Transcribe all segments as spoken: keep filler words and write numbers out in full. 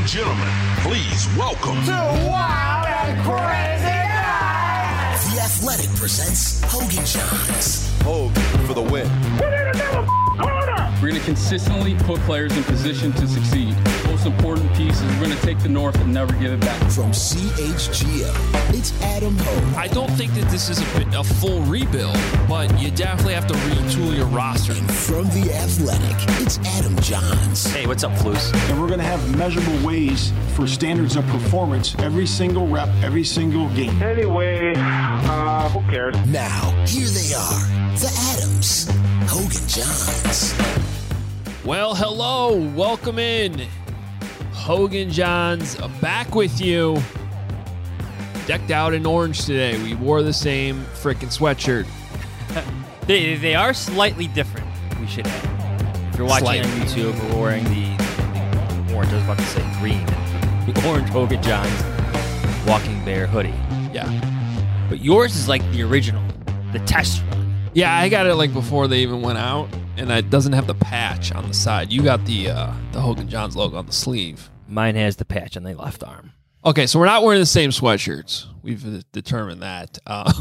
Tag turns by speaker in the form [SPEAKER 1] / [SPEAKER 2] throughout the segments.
[SPEAKER 1] gentlemen, please welcome
[SPEAKER 2] to Wild and Crazy Guys.
[SPEAKER 3] The Athletic presents Hogan Johns.
[SPEAKER 4] Hogan for the win.
[SPEAKER 2] We need another corner.
[SPEAKER 5] We're going to consistently put players in position to succeed. Most important piece is we're going to take the North and never give it back.
[SPEAKER 3] From C H G O, it's Adam Hogan.
[SPEAKER 6] I don't think that this is a, a full rebuild, but you definitely have to retool your roster.
[SPEAKER 3] And from The Athletic, it's Adam Johns.
[SPEAKER 7] Hey, what's up, Flus?
[SPEAKER 8] And we're going to have measurable ways for standards of performance every single rep, every single game.
[SPEAKER 2] Anyway, uh, who cares?
[SPEAKER 3] Now, here they are, the Adams, Hogan Johns.
[SPEAKER 6] Well, hello, welcome in. Hogan Johns back with you. Decked out in orange today. We wore the same frickin' sweatshirt.
[SPEAKER 7] they, they are slightly different, we should add. If you're watching slightly. on YouTube, we're wearing the, the orange, I was about to say green, the orange Hogan Johns Walking Bear hoodie.
[SPEAKER 6] Yeah.
[SPEAKER 7] But yours is like the original, the test run.
[SPEAKER 6] Yeah, I got it like before they even went out, and it doesn't have the patch on the side. You got the uh, the Hogan Johns logo on the sleeve.
[SPEAKER 7] Mine has the patch on the left arm.
[SPEAKER 6] Okay, so we're not wearing the same sweatshirts. We've determined that. Uh,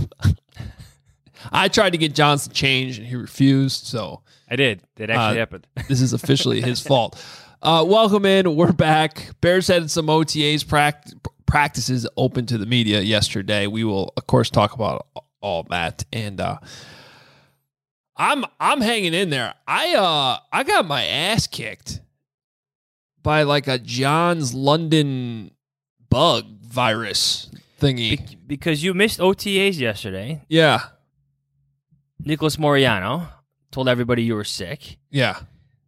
[SPEAKER 6] I tried to get Johns to change, and he refused, so...
[SPEAKER 7] I did. It actually
[SPEAKER 6] uh,
[SPEAKER 7] happened.
[SPEAKER 6] This is officially his fault. Uh, welcome in. We're back. Bears had some O T As pract- practices open to the media yesterday. We will, of course, talk about all that. And uh, I'm I'm hanging in there. I uh I got my ass kicked by like a Johns London bug virus thingy.
[SPEAKER 7] Be- because you missed O T As yesterday.
[SPEAKER 6] Yeah.
[SPEAKER 7] Nicholas Moreano told everybody you were sick.
[SPEAKER 6] Yeah.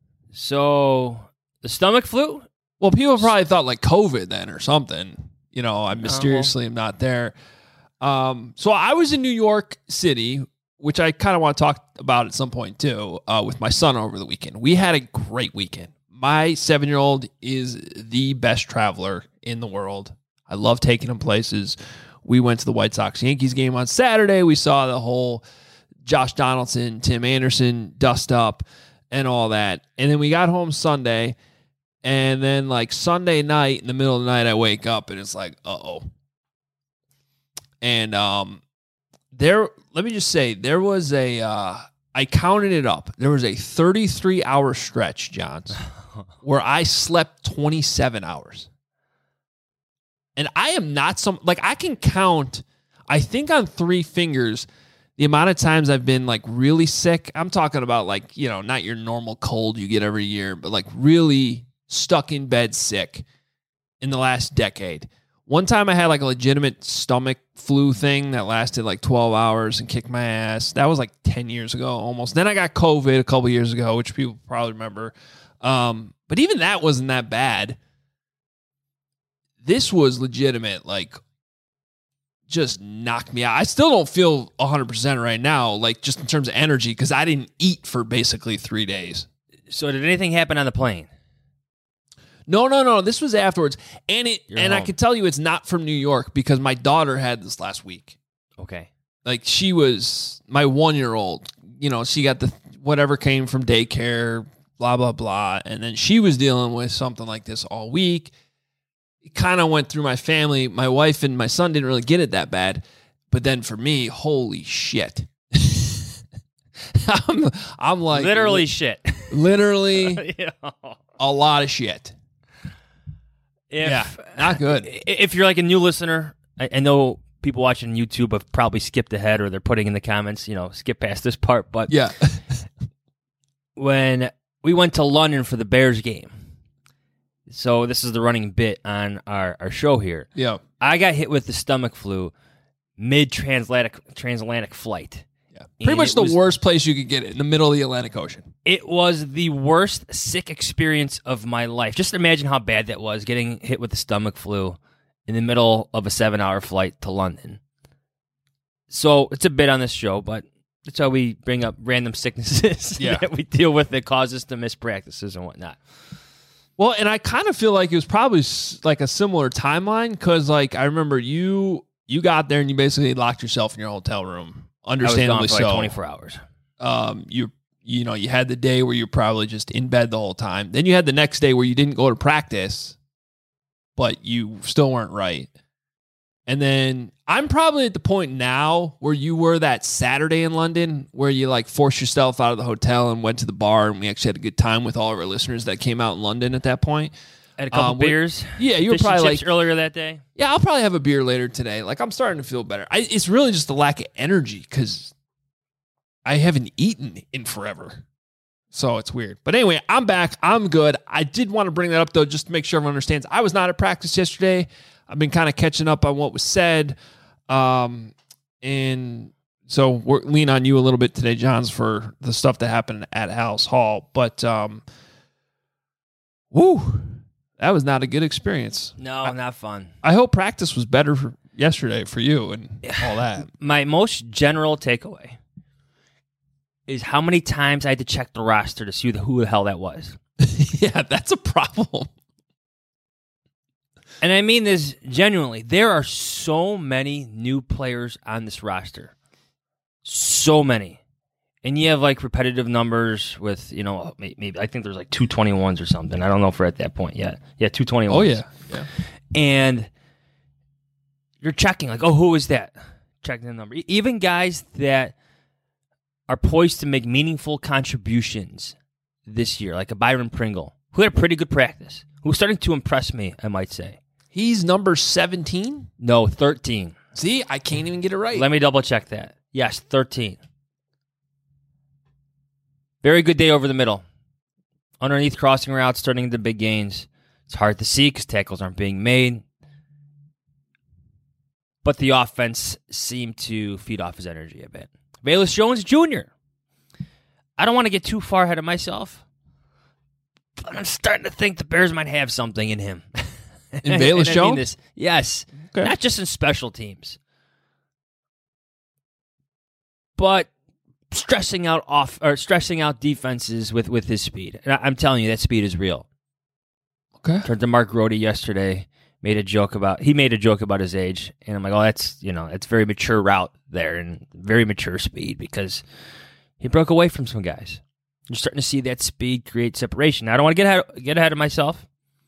[SPEAKER 7] So the stomach flu?
[SPEAKER 6] Well, people probably thought like COVID then or something. You know, I mysteriously am not there. Um, so I was in New York City, which I kind of want to talk about at some point too, uh, with my son over the weekend. We had a great weekend. My seven-year-old is the best traveler in the world. I love taking him places. We went to the White Sox-Yankees game on Saturday. We saw the whole Josh Donaldson, Tim Anderson dust up and all that. And then we got home Sunday, and then like Sunday night, in the middle of the night, I wake up and it's like, uh-oh. And um, there, let me just say, there was a, uh, I counted it up. There was a thirty-three hour stretch, Johns, where I slept twenty-seven hours. And I am not some, like I can count, I think on three fingers, the amount of times I've been like really sick. I'm talking about like, you know, not your normal cold you get every year, but like really stuck in bed sick in the last decade. One time I had like a legitimate stomach flu thing that lasted like twelve hours and kicked my ass. That was like ten years ago almost. Then I got COVID a couple years ago, which people probably remember. Um, but even that wasn't that bad. This was legitimate, like just knocked me out. I still don't feel one hundred percent right now, like just in terms of energy, because I didn't eat for basically three days.
[SPEAKER 7] So did anything happen on the plane?
[SPEAKER 6] No, no, no. This was afterwards. And it,
[SPEAKER 7] You're
[SPEAKER 6] and
[SPEAKER 7] home.
[SPEAKER 6] I can tell you it's not from New York because my daughter had this last week.
[SPEAKER 7] Okay.
[SPEAKER 6] Like she was my one-year-old. You know, she got the whatever came from daycare, blah, blah, blah. And then she was dealing with something like this all week. It kind of went through my family. My wife and my son didn't really get it that bad. But then for me, holy shit. I'm, I'm like...
[SPEAKER 7] Literally shit.
[SPEAKER 6] Literally
[SPEAKER 7] yeah.
[SPEAKER 6] a lot of shit.
[SPEAKER 7] If,
[SPEAKER 6] yeah, not good.
[SPEAKER 7] If you're like a new listener, I, I know people watching YouTube have probably skipped ahead or they're putting in the comments, you know, skip past this part. But
[SPEAKER 6] yeah,
[SPEAKER 7] when we went to London for the Bears game, so this is the running bit on our, our show here.
[SPEAKER 6] Yeah,
[SPEAKER 7] I got hit with the stomach flu mid-transatlantic transatlantic flight.
[SPEAKER 6] Yeah, pretty
[SPEAKER 7] and
[SPEAKER 6] much the
[SPEAKER 7] was,
[SPEAKER 6] worst place you could get it, in the middle of the Atlantic Ocean.
[SPEAKER 7] It was the worst sick experience of my life. Just imagine how bad that was, getting hit with the stomach flu in the middle of a seven-hour flight to London. So it's a bit on this show, but that's how we bring up random sicknesses
[SPEAKER 6] yeah.
[SPEAKER 7] that we deal with that cause us to miss practices and whatnot.
[SPEAKER 6] Well, and I kind of feel like it was probably like a similar timeline because, like, I remember you you got there and you basically locked yourself in your hotel room. Understandably
[SPEAKER 7] I was gone for
[SPEAKER 6] so.
[SPEAKER 7] like twenty-four hours.
[SPEAKER 6] Um, you you know, you had the day where you're probably just in bed the whole time. Then you had the next day where you didn't go to practice, but you still weren't right. And then I'm probably at the point now where you were that Saturday in London where you like forced yourself out of the hotel and went to the bar, and we actually had a good time with all of our listeners that came out in London at that point.
[SPEAKER 7] Had a couple
[SPEAKER 6] Um, we-
[SPEAKER 7] beers.
[SPEAKER 6] Yeah, you were
[SPEAKER 7] Fish and
[SPEAKER 6] probably
[SPEAKER 7] chips
[SPEAKER 6] like,
[SPEAKER 7] earlier that day.
[SPEAKER 6] yeah, I'll probably have a beer later today. Like, I'm starting to feel better. I, it's really just the lack of energy because I haven't eaten in forever. So it's weird. But anyway, I'm back. I'm good. I did want to bring that up, though, just to make sure everyone understands. I was not at practice yesterday. I've been kind of catching up on what was said. Um, and so we're lean on you a little bit today, Johns, for the stuff that happened at House Hall. But, um, woo, that was not a good experience.
[SPEAKER 7] No,
[SPEAKER 6] I,
[SPEAKER 7] not fun.
[SPEAKER 6] I hope practice was better for yesterday for you and all that.
[SPEAKER 7] My most general takeaway is how many times I had to check the roster to see who the hell that was.
[SPEAKER 6] Yeah, that's a problem.
[SPEAKER 7] And I mean this genuinely. There are so many new players on this roster. So many. And you have like repetitive numbers with, you know, maybe I think there's like two twenty-ones or something. I don't know if we're at that point yet. Yeah, two twenty-ones.
[SPEAKER 6] Oh, yeah. yeah.
[SPEAKER 7] And you're checking like, oh, who is that? Checking the number. Even guys that are poised to make meaningful contributions this year, like a Byron Pringle, who had a pretty good practice, who's starting to impress me, I might say.
[SPEAKER 6] He's number seventeen?
[SPEAKER 7] No, thirteen.
[SPEAKER 6] See, I can't even get it right.
[SPEAKER 7] Let me double check that. Yes, thirteen. Very good day over the middle. Underneath crossing routes, turning into big gains. It's hard to see because tackles aren't being made. But the offense seemed to feed off his energy a bit. Velus Jones Junior I don't want to get too far ahead of myself, but I'm starting to think the Bears might have something in him.
[SPEAKER 6] In Velus
[SPEAKER 7] I
[SPEAKER 6] Jones?
[SPEAKER 7] mean this, yes.
[SPEAKER 6] Okay.
[SPEAKER 7] Not just in special teams, but stressing out off or stressing out defenses with, with his speed. And I, I'm telling you, that speed is real.
[SPEAKER 6] Okay.
[SPEAKER 7] Turned to Mark Rohde yesterday, made a joke about he made a joke about his age, and I'm like, oh, that's you know, it's very mature route there and very mature speed because he broke away from some guys. You're starting to see that speed create separation. Now, I don't want to get ahead, get ahead of myself,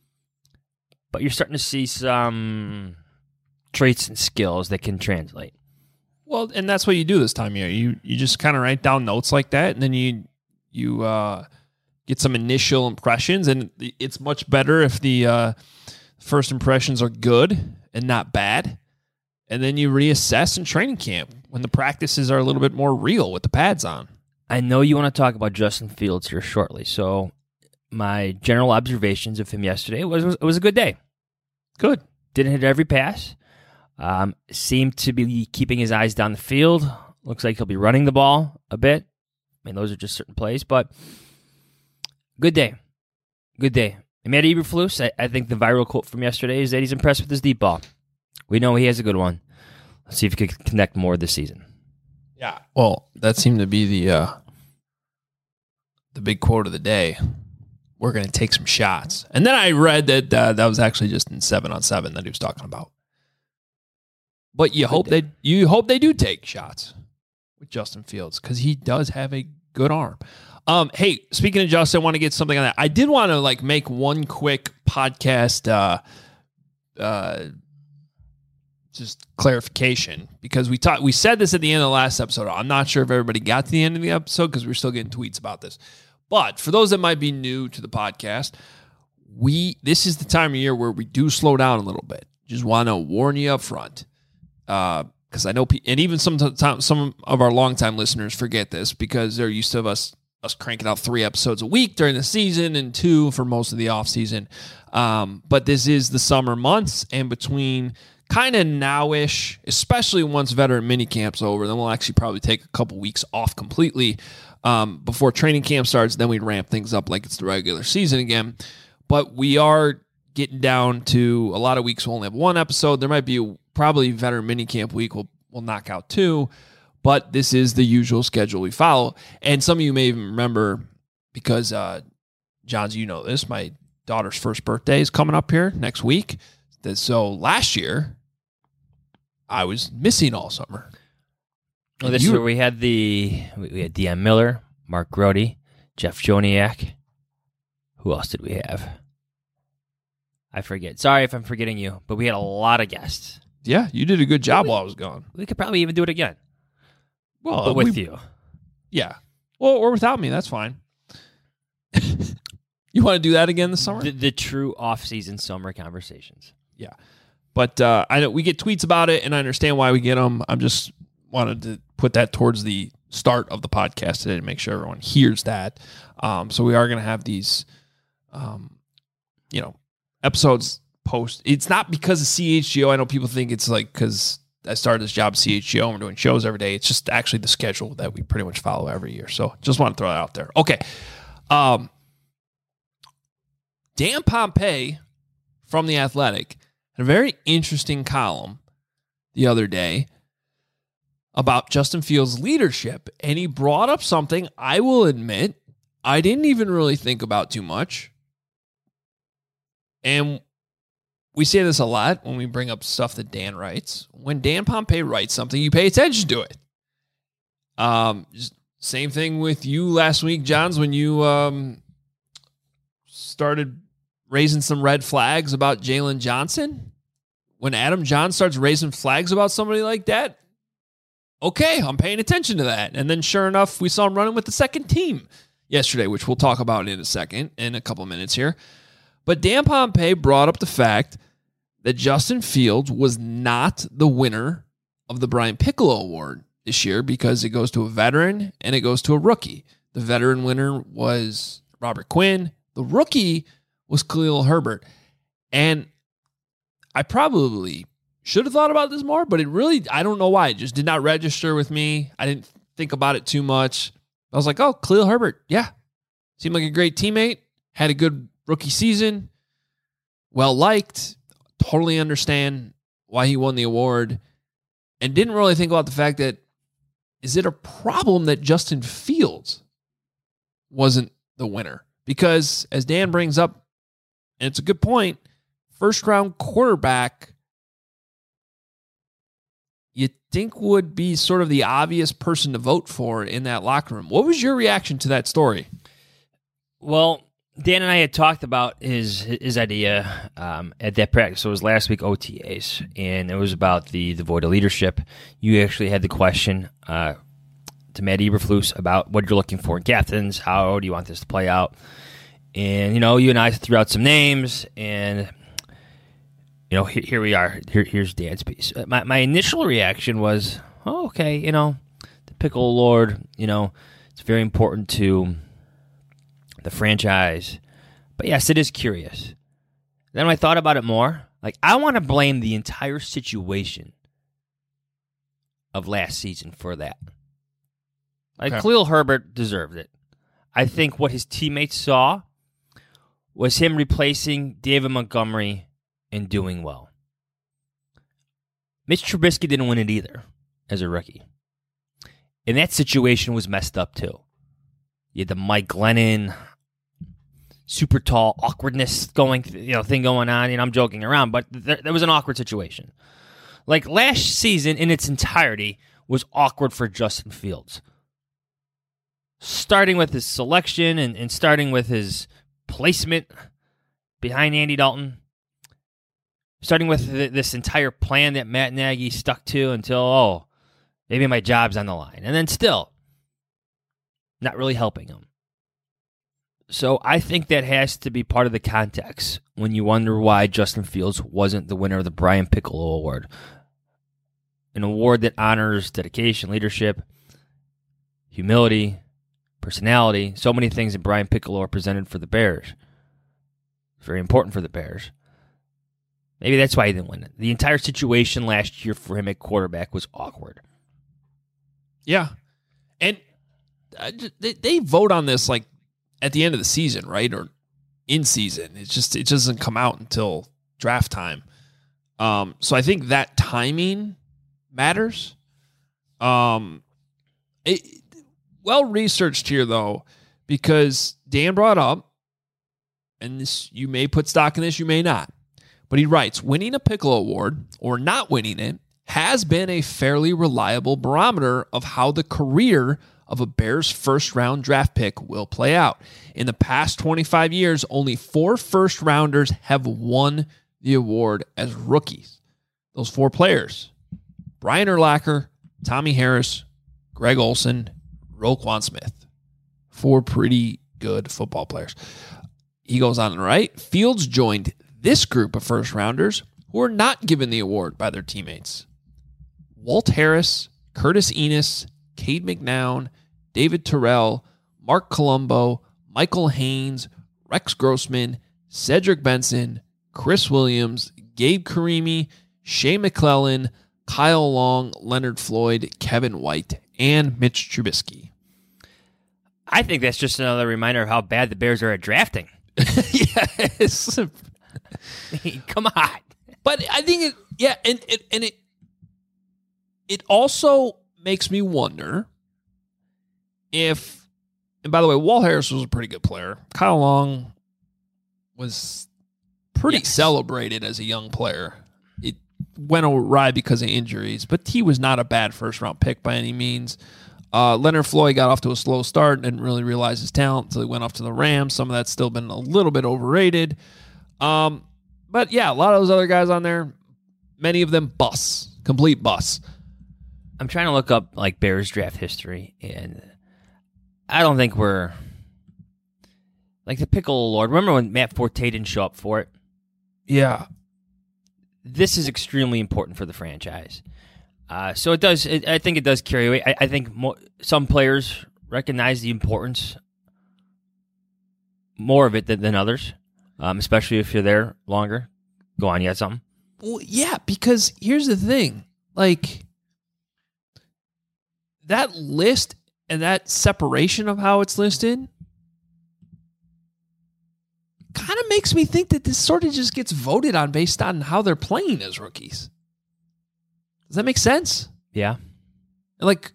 [SPEAKER 7] but you're starting to see some traits and skills that can translate.
[SPEAKER 6] Well, and that's what you do this time of year. You you just kind of write down notes like that, and then you you uh, get some initial impressions, and it's much better if the uh, first impressions are good and not bad, and then you reassess in training camp when the practices are a little bit more real with the pads on.
[SPEAKER 7] I know you want to talk about Justin Fields here shortly, so my general observations of him yesterday was, was it was a good day.
[SPEAKER 6] Good.
[SPEAKER 7] Didn't hit every pass. Um, seemed to be keeping his eyes down the field. Looks like he'll be running the ball a bit. I mean, those are just certain plays, but good day. Good day. And Matt Eberflus, I, I think the viral quote from yesterday is that he's impressed with his deep ball. We know he has a good one. Let's see if he can connect more this season.
[SPEAKER 6] Yeah. Well, that seemed to be the uh, the big quote of the day. We're going to take some shots. And then I read that uh, that was actually just in seven on seven that he was talking about. But you hope they you hope they do take shots with Justin Fields because he does have a good arm. Um, hey, speaking of Justin, I want to get something on that. I did want to like make one quick podcast uh, uh, just clarification because we talked we said this at the end of the last episode. I'm not sure if everybody got to the end of the episode because we're still getting tweets about this. But for those that might be new to the podcast, we this is the time of year where we do slow down a little bit. Just want to warn you up front. Because uh, I know, pe- and even some some of our longtime listeners forget this because they're used to us us cranking out three episodes a week during the season and two for most of the off season. Um, but this is the summer months, and between kind of nowish, especially once veteran mini camp's over, then we'll actually probably take a couple weeks off completely um, before training camp starts. Then we'd ramp things up like it's the regular season again. But we are getting down to a lot of weeks. We'll only have one episode. There might be a Probably veteran minicamp week will will knock out two, but this is the usual schedule we follow. And some of you may even remember because, uh, Johns, you know this, my daughter's first birthday is coming up here next week. So last year, I was missing all summer.
[SPEAKER 7] Well, this
[SPEAKER 6] you,
[SPEAKER 7] year we had the we had D M Miller, Mark Rohde, Jeff Joniak. Who else did we have? I forget. Sorry if I'm forgetting you, but we had a lot of guests.
[SPEAKER 6] Yeah, you did a good job while I was gone.
[SPEAKER 7] We could probably even do it again.
[SPEAKER 6] Well,
[SPEAKER 7] but with
[SPEAKER 6] we,
[SPEAKER 7] you.
[SPEAKER 6] Yeah. Well, or without me, that's fine. You want to do that again this summer?
[SPEAKER 7] The, the true off-season summer conversations.
[SPEAKER 6] Yeah. But uh, I know we get tweets about it, and I understand why we get them. I'm just wanted to put that towards the start of the podcast today to make sure everyone hears that. Um, so we are going to have these, um, you know, episodes post. It's not because of C H G O. I know people think it's like because I started this job at C H G O and we're doing shows every day. It's just actually the schedule that we pretty much follow every year. So just want to throw that out there. Okay. Um, Dan Pompei from The Athletic had a very interesting column the other day about Justin Fields' leadership, and he brought up something I will admit I didn't even really think about too much. And we say this a lot when we bring up stuff that Dan writes. When Dan Pompei writes something, you pay attention to it. Um, same thing with you last week, Johns, when you um, started raising some red flags about Jalen Johnson. When Adam John starts raising flags about somebody like that, okay, I'm paying attention to that. And then sure enough, we saw him running with the second team yesterday, which we'll talk about in a second, in a couple minutes here. But Dan Pompei brought up the fact that Justin Fields was not the winner of the Brian Piccolo Award this year because it goes to a veteran and it goes to a rookie. The veteran winner was Robert Quinn. The rookie was Khalil Herbert. And I probably should have thought about this more, but it really, I don't know why. It just did not register with me. I didn't think about it too much. I was like, oh, Khalil Herbert. Yeah. Seemed like a great teammate. Had a good rookie season. Well liked. Totally understand why he won the award. And didn't really think about the fact that, is it a problem that Justin Fields wasn't the winner? Because as Dan brings up, and it's a good point, first round quarterback you think would be sort of the obvious person to vote for in that locker room. What was your reaction to that story?
[SPEAKER 7] Well, Dan and I had talked about his his idea um, at that practice. So it was last week O T As, and it was about the, the void of leadership. You actually had the question uh, to Matt Eberflus about what you're looking for in captains. How do you want this to play out? And, you know, you and I threw out some names, and you know, here, here we are. Here, here's Dan's piece. My my initial reaction was, oh, okay, you know, the Piccolo Lord, you know, it's very important to the franchise. But yes, it is curious. Then when I thought about it more, like, I want to blame the entire situation of last season for that. Like, okay. Khalil Herbert deserved it. I think what his teammates saw was him replacing David Montgomery and doing well. Mitch Trubisky didn't win it either as a rookie. And that situation was messed up too. You had the Mike Glennon super tall awkwardness going, you know, thing going on. And I'm joking around, but there, there was an awkward situation. Like last season in its entirety was awkward for Justin Fields. Starting with his selection and, and starting with his placement behind Andy Dalton. Starting with th- this entire plan that Matt Nagy stuck to until, oh, maybe my job's on the line. And then still, not really helping him. So I think that has to be part of the context when you wonder why Justin Fields wasn't the winner of the Brian Piccolo Award. An award that honors dedication, leadership, humility, personality, so many things that Brian Piccolo represented for the Bears. Very important for the Bears. Maybe that's why he didn't win it. The entire situation last year for him at quarterback was awkward.
[SPEAKER 6] Yeah. And uh, they, they vote on this like at the end of the season, right? Or in season. It's just, it doesn't come out until draft time. Um, so I think that timing matters. Um, it, well researched here, though, because Dan brought up, and this you may put stock in this, you may not. But he writes, winning a Piccolo Award or not winning it has been a fairly reliable barometer of how the career of a Bears first-round draft pick will play out. In the past twenty-five years, only four first-rounders have won the award as rookies. Those four players, Brian Urlacher, Tommy Harris, Greg Olsen, Roquan Smith. Four pretty good football players. He goes on to write, Fields joined this group of first-rounders who were not given the award by their teammates. Walt Harris, Curtis Enos, Cade McNown, David Terrell, Mark Colombo, Michael Haynes, Rex Grossman, Cedric Benson, Chris Williams, Gabe Karimi, Shea McClellan, Kyle Long, Leonard Floyd, Kevin White, and Mitch Trubisky.
[SPEAKER 7] I think that's just another reminder of how bad the Bears are at drafting.
[SPEAKER 6] Yes.
[SPEAKER 7] Come on.
[SPEAKER 6] But I think it, yeah, and, and, and it, it also makes me wonder if, and by the way, Walt Harris was a pretty good player. Kyle Long was pretty yes. celebrated as a young player. It went awry because of injuries, but he was not a bad first-round pick by any means. Uh, Leonard Floyd got off to a slow start and didn't really realize his talent until he went off to the Rams. Some of that's still been a little bit overrated. Um, but, yeah, a lot of those other guys on there, many of them busts, complete busts.
[SPEAKER 7] I'm trying to look up, like, Bears draft history, and I don't think we're, like, the Pickle Lord. Remember when Matt Forte didn't show up for it?
[SPEAKER 6] Yeah.
[SPEAKER 7] This is extremely important for the franchise. Uh, so it does. It, I think it does carry weight. I, I think mo- some players recognize the importance more of it than, than others, um, especially if you're there longer. Go on, you had something?
[SPEAKER 6] Well, yeah, because here's the thing. Like, that list and that separation of how it's listed kind of makes me think that this sort of just gets voted on based on how they're playing as rookies. Does that make sense?
[SPEAKER 7] Yeah.
[SPEAKER 6] Like,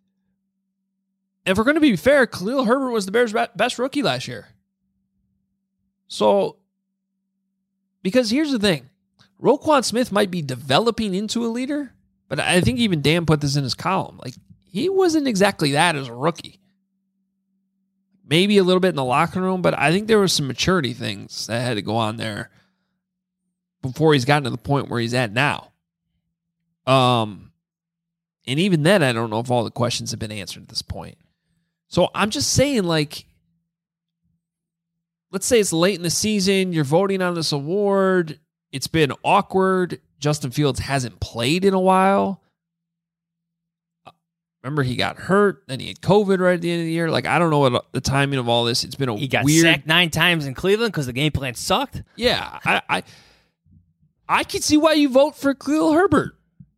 [SPEAKER 6] if we're going to be fair, Khalil Herbert was the Bears' best rookie last year. So, because here's the thing. Roquan Smith might be developing into a leader, but I think even Dan put this in his column. Like, he wasn't exactly that as a rookie. Maybe a little bit in the locker room, but I think there were some maturity things that had to go on there before he's gotten to the point where he's at now. Um, and even then, I don't know if all the questions have been answered at this point. So I'm just saying, like, let's say it's late in the season, you're voting on this award, it's been awkward, Justin Fields hasn't played in a while. Remember, he got hurt, then he had COVID right at the end of the year. Like, I don't know what the timing of all this. It's been a
[SPEAKER 7] he got
[SPEAKER 6] weird...
[SPEAKER 7] sacked nine times in Cleveland because the game plan sucked.
[SPEAKER 6] Yeah, I, I, I can see why you vote for Khalil Herbert.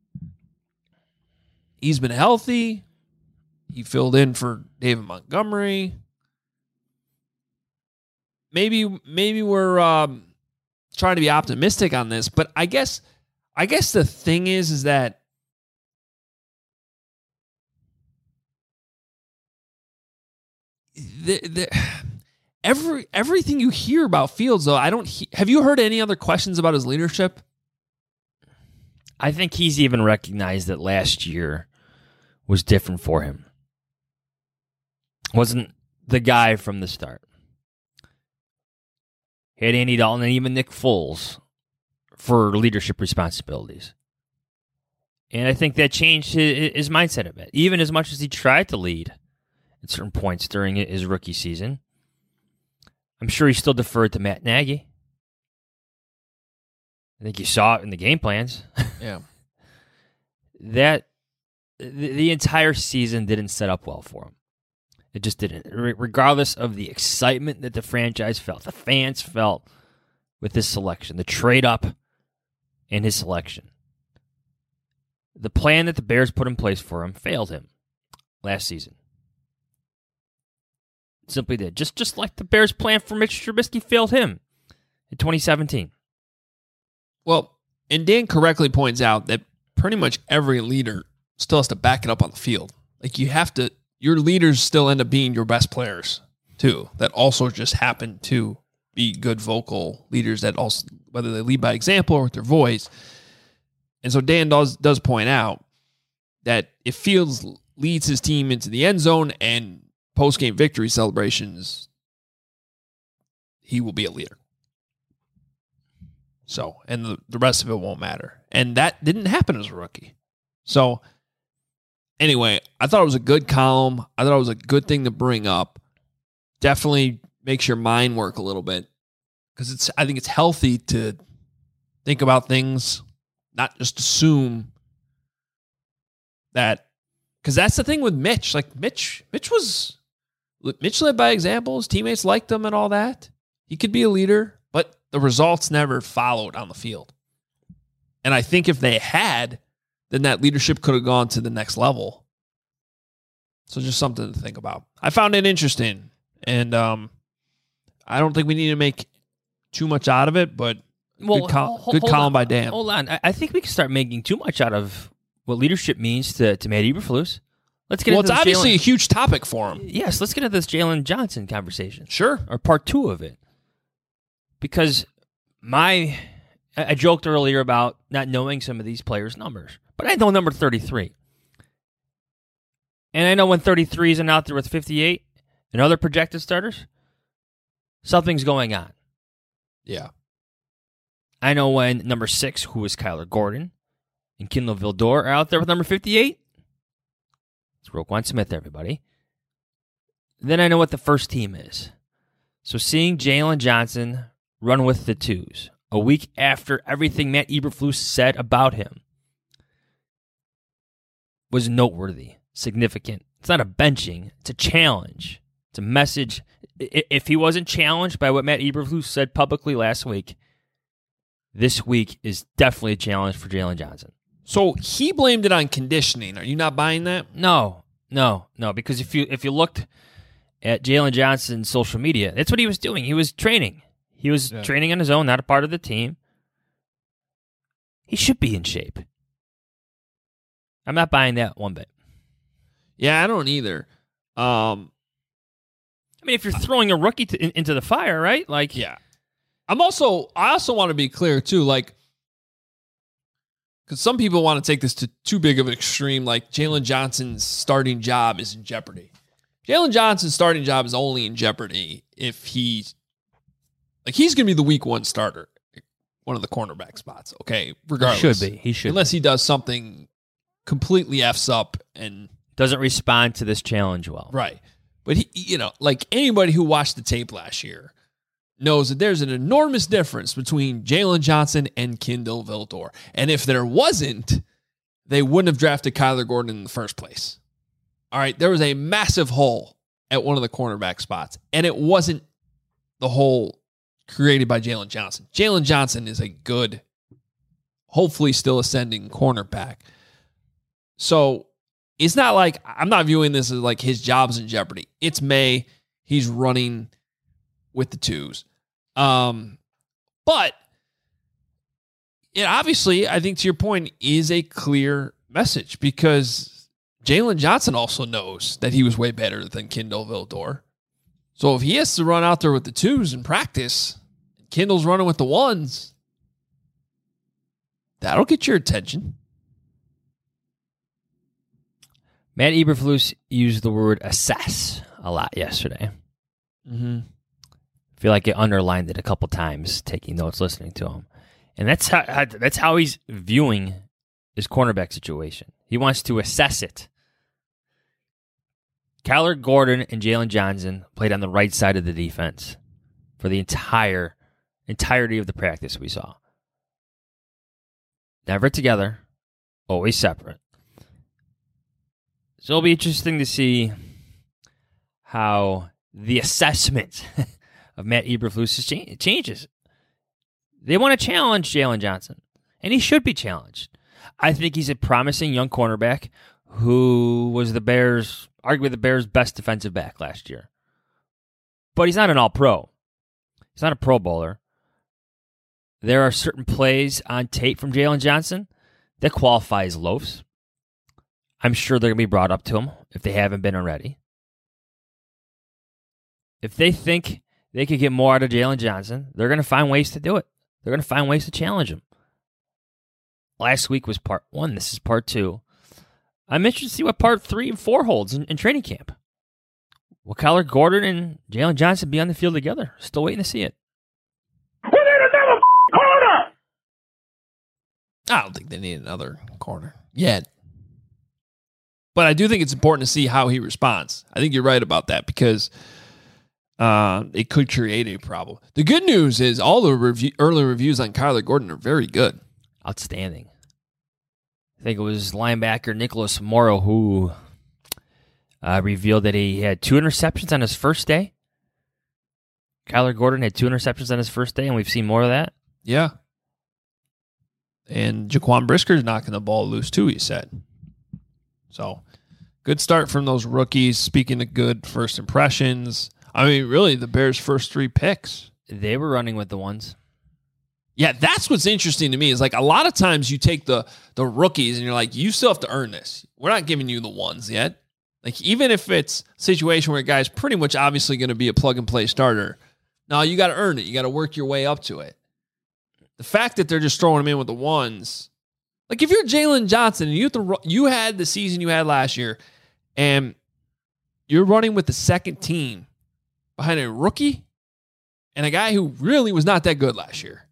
[SPEAKER 6] He's been healthy. He filled in for David Montgomery. Maybe, maybe we're um, trying to be optimistic on this, but I guess, I guess the thing is, is that the, the, every everything you hear about Fields, though, I don't. He, have you heard any other questions about his leadership?
[SPEAKER 7] I think he's even recognized that last year was different for him. Wasn't the guy from the start. He had Andy Dalton and even Nick Foles for leadership responsibilities. And I think that changed his, his mindset a bit. Even as much as he tried to lead at certain points during his rookie season, I'm sure he still deferred to Matt Nagy. I think you saw it in the game plans.
[SPEAKER 6] Yeah.
[SPEAKER 7] that the, the entire season didn't set up well for him. It just didn't. Re- regardless of the excitement that the franchise felt, the fans felt with this selection, the trade up and his selection. The plan that the Bears put in place for him failed him last season. It simply did. Just, just like the Bears' plan for Mitch Trubisky failed him in twenty seventeen.
[SPEAKER 6] Well, and Dan correctly points out that pretty much every leader still has to back it up on the field. Like, you have to, your leaders still end up being your best players too, that also just happen to be good vocal leaders that also, whether they lead by example or with their voice. And so Dan does, does point out that if Fields leads his team into the end zone and post-game victory celebrations, he will be a leader. So, and the, the rest of it won't matter. And that didn't happen as a rookie. So, anyway, I thought it was a good column. I thought it was a good thing to bring up. Definitely makes your mind work a little bit, because it's. I think it's healthy to think about things, not just assume that. Because that's the thing with Mitch. Like Mitch, Mitch was Mitch led by example. His teammates liked him and all that. He could be a leader, but the results never followed on the field. And I think if they had, then that leadership could have gone to the next level. So just something to think about. I found it interesting. And um, I don't think we need to make too much out of it, but
[SPEAKER 7] well,
[SPEAKER 6] good, col-
[SPEAKER 7] hold,
[SPEAKER 6] good
[SPEAKER 7] hold
[SPEAKER 6] column
[SPEAKER 7] on,
[SPEAKER 6] by Dan.
[SPEAKER 7] Hold on. I, I think we can start making too much out of what leadership means to, to Matt Eberflus. Let's get
[SPEAKER 6] Well,
[SPEAKER 7] into
[SPEAKER 6] it's
[SPEAKER 7] this
[SPEAKER 6] obviously
[SPEAKER 7] Jalen,
[SPEAKER 6] a huge topic for him.
[SPEAKER 7] Yes, let's get into this Jalen Johnson conversation.
[SPEAKER 6] Sure.
[SPEAKER 7] Or part two of it. Because my, I I joked earlier about not knowing some of these players' numbers, but I know number thirty-three. And I know when thirty-three isn't out there with fifty-eight and other projected starters, something's going on.
[SPEAKER 6] Yeah.
[SPEAKER 7] I know when number six, who is Kyler Gordon, and Kindle Vildor are out there with number fifty-eight. It's Roquan Smith, everybody. Then I know what the first team is. So seeing Jalen Johnson run with the twos a week after everything Matt Eberflus said about him was noteworthy, significant. It's not a benching. It's a challenge. It's a message. If he wasn't challenged by what Matt Eberflus said publicly last week, this week is definitely a challenge for Jalen Johnson.
[SPEAKER 6] So he blamed it on conditioning. Are you not buying that?
[SPEAKER 7] No, no, no. Because if you if you looked at Jalen Johnson's social media, that's what he was doing. He was training. He was
[SPEAKER 6] Yeah.
[SPEAKER 7] training on his own, not a part of the team. He should be in shape. I'm not buying that one bit.
[SPEAKER 6] Yeah, I don't either. Um,
[SPEAKER 7] I mean, if you're throwing a rookie to, in, into the fire, right? Like,
[SPEAKER 6] yeah. I'm also, I also want to be clear too, like, because some people want to take this to too big of an extreme, like Jalen Johnson's starting job is in jeopardy. Jalen Johnson's starting job is only in jeopardy if he's, like, he's going to be the week one starter, one of the cornerback spots, okay? Regardless.
[SPEAKER 7] He should be. He should.
[SPEAKER 6] Unless he does something completely F's up and
[SPEAKER 7] Doesn't respond to this challenge well.
[SPEAKER 6] right. But he, you know, like anybody who watched the tape last year knows that there's an enormous difference between Jalen Johnson and Kindle Vildor. And if there wasn't, they wouldn't have drafted Kyler Gordon in the first place. All right, there was a massive hole at one of the cornerback spots, and it wasn't the hole created by Jalen Johnson. Jalen Johnson is a good, hopefully still ascending cornerback. So it's not like, I'm not viewing this as like his job's in jeopardy. It's May. He's running with the twos. Um, but it obviously, I think to your point, is a clear message because Jalen Johnson also knows that he was way better than Kindle Vildor. So if he has to run out there with the twos in practice, Kindle's running with the ones, that'll get your attention.
[SPEAKER 7] Matt Eberflus used the word assess a lot yesterday.
[SPEAKER 6] Mm-hmm.
[SPEAKER 7] I feel like it underlined it a couple times, taking notes, listening to him. And that's how, how that's how he's viewing his cornerback situation. He wants to assess it. Kyler Gordon and Jalen Johnson played on the right side of the defense for the entire entirety of the practice we saw. Never together, always separate. So it'll be interesting to see how the assessment of Matt Eberflus changes. They want to challenge Jalen Johnson, and he should be challenged. I think he's a promising young cornerback who was the Bears, arguably the Bears' best defensive back last year. But he's not an all-pro. He's not a Pro Bowler. There are certain plays on tape from Jalen Johnson that qualify as loafs. I'm sure they're going to be brought up to him if they haven't been already. If they think they could get more out of Jalen Johnson, they're going to find ways to do it. They're going to find ways to challenge him. Last week was part one. This is part two. I'm interested to see what part three and four holds in, in training camp. Will Kyler Gordon and Jalen Johnson be on the field together? Still waiting to see it.
[SPEAKER 2] We need another corner.
[SPEAKER 6] I don't think they need another corner yet. But I do think it's important to see how he responds. I think you're right about that because uh, it could create a problem. The good news is all the review, early reviews on Kyler Gordon are very good.
[SPEAKER 7] Outstanding. I think it was linebacker Nicholas Morrow who uh, revealed that he had two interceptions on his first day. Kyler Gordon had two interceptions on his first day, and we've seen more of that.
[SPEAKER 6] Yeah. And Jaquan Brisker's knocking the ball loose too, he said. So, good start from those rookies. Speaking of good first impressions, I mean, really, the Bears' first three picks.
[SPEAKER 7] They were running with the ones.
[SPEAKER 6] Yeah, that's what's interesting to me is like a lot of times you take the the rookies and you're like, you still have to earn this. We're not giving you the ones yet. Like, even if it's a situation where a guy's pretty much obviously going to be a plug-and-play starter, no, you got to earn it. You got to work your way up to it. The fact that they're just throwing him in with the ones, like if you're Jalen Johnson and you have to, you had the season you had last year and you're running with the second team behind a rookie and a guy who really was not that good last year.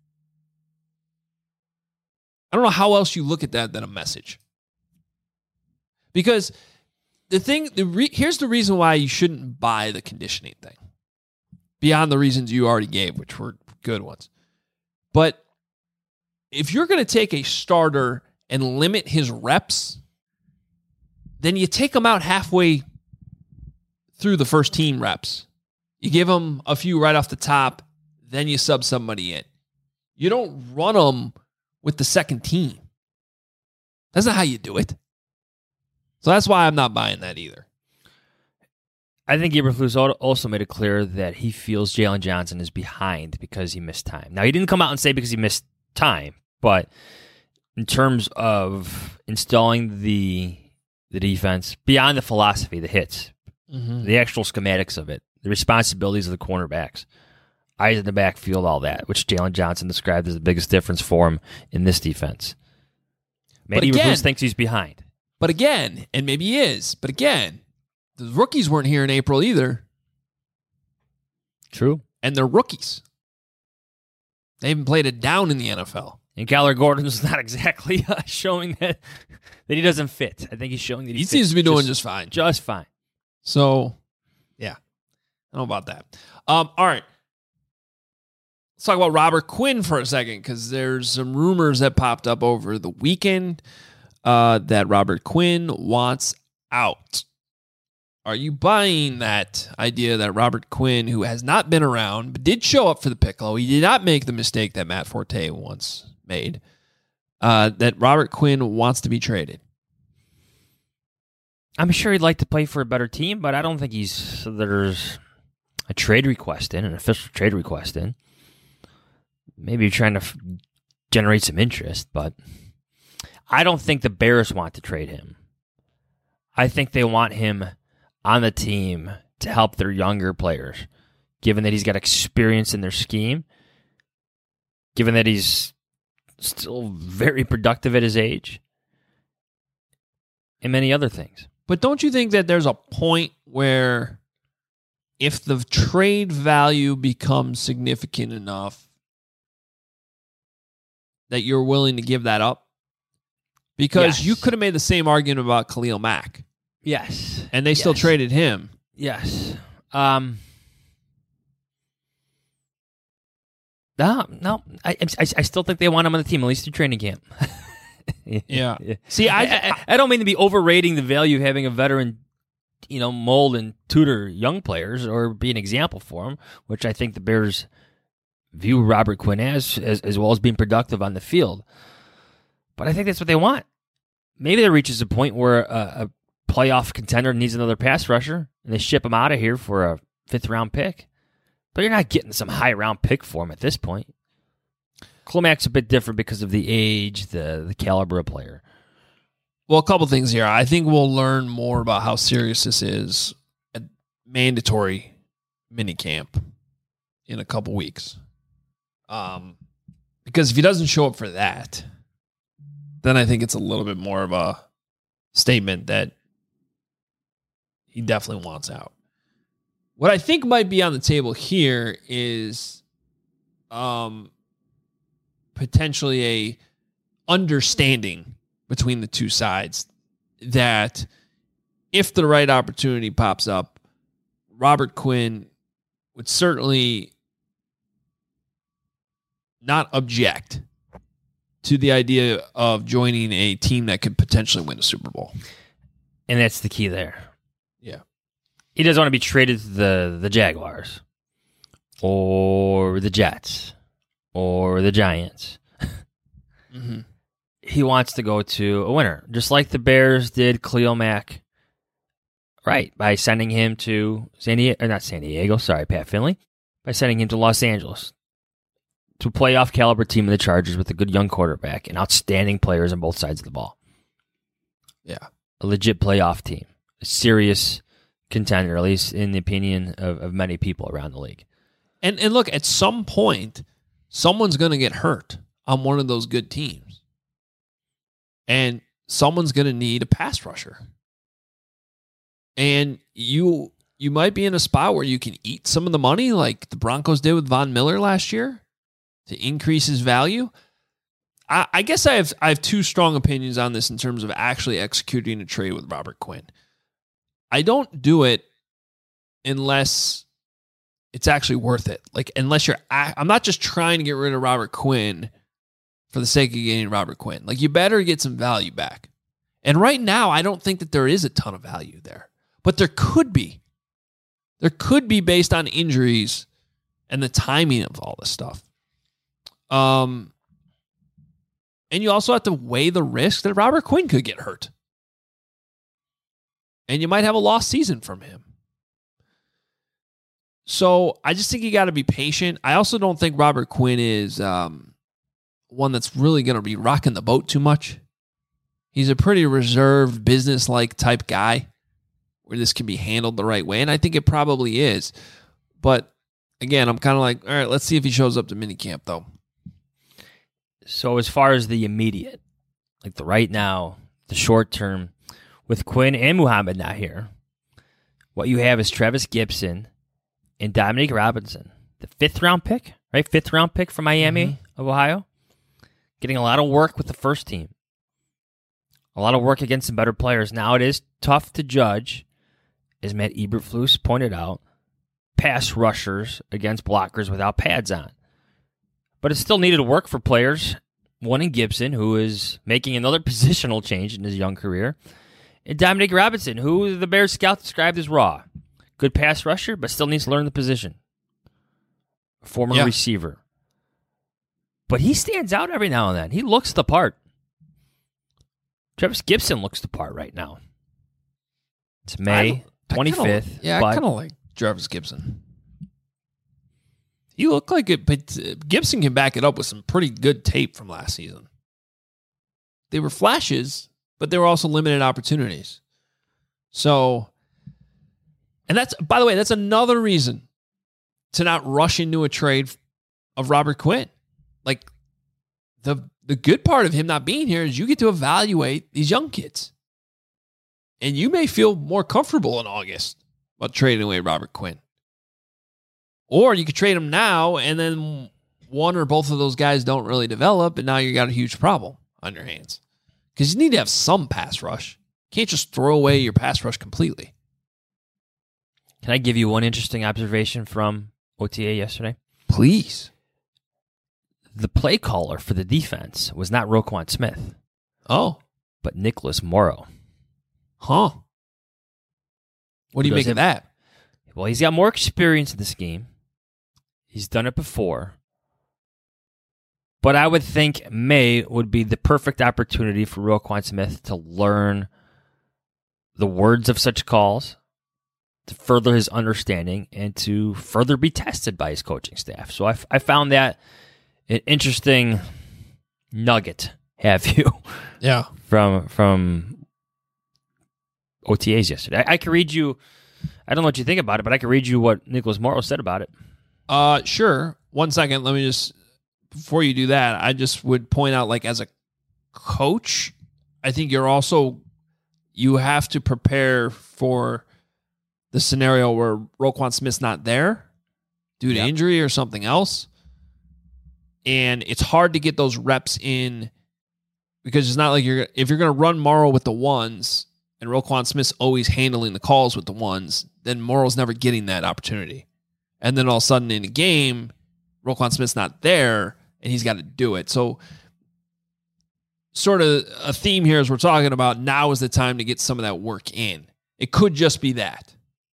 [SPEAKER 6] I don't know how else you look at that than a message. Because the thing, the re, here's the reason why you shouldn't buy the conditioning thing. Beyond the reasons you already gave, which were good ones. But if you're going to take a starter and limit his reps, then you take him out halfway through the first team reps. You give him a few right off the top, then you sub somebody in. You don't run them with the second team. That's not how you do it. So that's why I'm not buying that either.
[SPEAKER 7] I think Eberflus also made it clear that he feels Jalen Johnson is behind because he missed time. Now, he didn't come out and say because he missed time, but in terms of installing the the defense, beyond the philosophy, the hits, mm-hmm. the actual schematics of it, the responsibilities of the cornerbacks, eyes in the backfield, all that, which Jalen Johnson described as the biggest difference for him in this defense. Maybe Eberflus thinks he's behind.
[SPEAKER 6] But again, and maybe he is, but again, the rookies weren't here in April either.
[SPEAKER 7] True.
[SPEAKER 6] And they're rookies. They haven't played it down in the N F L.
[SPEAKER 7] And Kyler Gordon's not exactly uh, showing that that he doesn't fit. I think he's showing that he,
[SPEAKER 6] he seems to be
[SPEAKER 7] just,
[SPEAKER 6] doing just fine.
[SPEAKER 7] Just fine.
[SPEAKER 6] So, yeah. I don't know about that. Um, all right. Let's talk about Robert Quinn for a second because there's some rumors that popped up over the weekend uh, that Robert Quinn wants out. Are you buying that idea that Robert Quinn, who has not been around, but did show up for the Piccolo, he did not make the mistake that Matt Forte once made, uh, that Robert Quinn wants to be traded?
[SPEAKER 7] I'm sure he'd like to play for a better team, but I don't think he's so there's a trade request in, an official trade request in. Maybe you're trying to f- generate some interest, but I don't think the Bears want to trade him. I think they want him on the team to help their younger players, given that he's got experience in their scheme, given that he's still very productive at his age, and many other things.
[SPEAKER 6] But don't you think that there's a point where if the trade value becomes significant enough that you're willing to give that up? Because
[SPEAKER 7] yes.
[SPEAKER 6] you could have made the same argument about Khalil Mack.
[SPEAKER 7] Yes.
[SPEAKER 6] And they still
[SPEAKER 7] yes.
[SPEAKER 6] traded him.
[SPEAKER 7] Yes. Um, no, no. I, I I still think they want him on the team, at least through training camp.
[SPEAKER 6] yeah. See, I,
[SPEAKER 7] I I don't mean to be overrating the value of having a veteran, you know, mold and tutor young players or be an example for them, which I think the Bears view Robert Quinn as, as, as well as being productive on the field. But I think that's what they want. Maybe there reaches a point where a, a playoff contender needs another pass rusher, and they ship him out of here for a fifth-round pick. But you're not getting some high-round pick for him at this point. Khalil Mack's a bit different because of the age, the, the caliber of player.
[SPEAKER 6] Well, a couple things here. I think we'll learn more about how serious this is at mandatory minicamp in a couple weeks. Um, because if he doesn't show up for that, then I think it's a little bit more of a statement that he definitely wants out. What I think might be on the table here is um, potentially a understanding between the two sides that if the right opportunity pops up, Robert Quinn would certainly not object to the idea of joining a team that could potentially win a Super Bowl.
[SPEAKER 7] And that's the key there.
[SPEAKER 6] Yeah.
[SPEAKER 7] He doesn't want to be traded to the, the Jaguars or the Jets or the Giants.
[SPEAKER 6] Mm-hmm.
[SPEAKER 7] He wants to go to a winner, just like the Bears did Khalil Mack, right, by sending him to San Diego, or not San Diego, sorry, Pat Finley, by sending him to Los Angeles to a playoff caliber team of the Chargers with a good young quarterback and outstanding players on both sides of the ball.
[SPEAKER 6] Yeah.
[SPEAKER 7] A legit playoff team, a serious contender, at least in the opinion of, of many people around the league.
[SPEAKER 6] And and look, at some point, someone's going to get hurt on one of those good teams. And someone's going to need a pass rusher. And you you might be in a spot where you can eat some of the money like the Broncos did with Von Miller last year to increase his value. I, I guess I have I have two strong opinions on this in terms of actually executing a trade with Robert Quinn. I don't do it unless it's actually worth it. Like, unless you're, I'm not just trying to get rid of Robert Quinn for the sake of getting Robert Quinn. Like, you better get some value back. And right now, I don't think that there is a ton of value there, but there could be. There could be based on injuries and the timing of all this stuff. Um, and you also have to weigh the risk that Robert Quinn could get hurt. And you might have a lost season from him. So I just think you got to be patient. I also don't think Robert Quinn is um, one that's really going to be rocking the boat too much. He's a pretty reserved, business-like type guy where this can be handled the right way. And I think it probably is. But again, I'm kind of like, all right, let's see if he shows up to minicamp, though.
[SPEAKER 7] So as far as the immediate, like the right now, the short term, with Quinn and Muhammad not here, what you have is Travis Gibson and Dominique Robinson, the fifth round pick, right? Fifth round pick from Miami mm-hmm. of Ohio, getting a lot of work with the first team, a lot of work against some better players. Now it is tough to judge, as Matt Eberflus pointed out, pass rushers against blockers without pads on. But it still needed work for players. One in Gibson, who is making another positional change in his young career. And Dominique Robinson, who the Bears scout described as raw. Good pass rusher, but still needs to learn the position. Former yeah. receiver. But he stands out every now and then. He looks the part. Travis Gibson looks the part right now. It's May twenty-fifth.
[SPEAKER 6] Kinda, yeah, I kind of like Travis Gibson. He looked like it, but Gibson can back it up with some pretty good tape from last season. They were flashes, but they were also limited opportunities. So, and that's, by the way, that's another reason to not rush into a trade of Robert Quinn. Like, the the good part of him not being here is you get to evaluate these young kids. And you may feel more comfortable in August about trading away Robert Quinn. Or you could trade him now, and then one or both of those guys don't really develop, and now you got a huge problem on your hands. Because you need to have some pass rush. You can't just throw away your pass rush completely.
[SPEAKER 7] Can I give you one interesting observation from O T A yesterday?
[SPEAKER 6] Please.
[SPEAKER 7] The play caller for the defense was not Roquan Smith.
[SPEAKER 6] Oh.
[SPEAKER 7] But Nicholas Morrow.
[SPEAKER 6] Huh. What do you make of that?
[SPEAKER 7] Well, he's got more experience in this game. He's done it before. But I would think May would be the perfect opportunity for Roquan Smith to learn the words of such calls, to further his understanding, and to further be tested by his coaching staff. So I, I found that an interesting nugget, have you?
[SPEAKER 6] Yeah.
[SPEAKER 7] From from O T As yesterday. I, I can read you, I don't know what you think about it, but I can read you what Nicholas Morrow said about it.
[SPEAKER 6] Uh, sure. One second. Let me just, before you do that, I just would point out, like, as a coach, I think you're also, you have to prepare for the scenario where Roquan Smith's not there due to
[SPEAKER 7] Yep.
[SPEAKER 6] injury or something else. And it's hard to get those reps in because it's not like you're if you're going to run Morrow with the ones and Roquan Smith's always handling the calls with the ones, then Morrow's never getting that opportunity. And then all of a sudden in a game, Roquan Smith's not there and he's got to do it. So sort of a theme here as we're talking about now is the time to get some of that work in. It could just be that.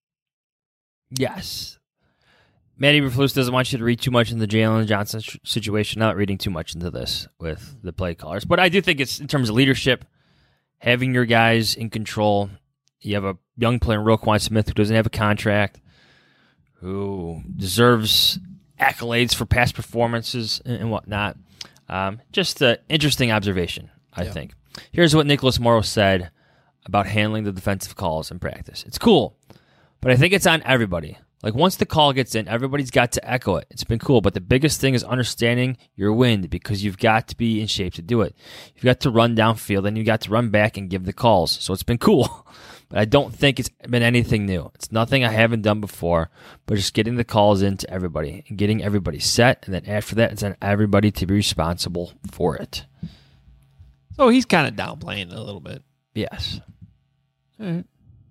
[SPEAKER 7] Yes. Matty Eberflus doesn't want you to read too much into the Jalen Johnson sh- situation. Not reading too much into this with the play callers. But I do think it's in terms of leadership, having your guys in control. You have a young player, Roquan Smith, who doesn't have a contract, who deserves accolades for past performances and, and whatnot. Um, just an interesting observation, I
[SPEAKER 6] Yeah.
[SPEAKER 7] think. Here's what Nicholas Morrow said about handling the defensive calls in practice. It's cool, but I think it's on everybody. Like, once the call gets in, everybody's got to echo it. It's been cool, but the biggest thing is understanding your wind because you've got to be in shape to do it. You've got to run downfield, and you've got to run back and give the calls. So it's been cool, but I don't think it's been anything new. It's nothing I haven't done before, but just getting the calls into everybody and getting everybody set, and then after that, it's on everybody to be responsible for it.
[SPEAKER 6] So he's kind of downplaying it a little bit.
[SPEAKER 7] Yes.
[SPEAKER 6] All right.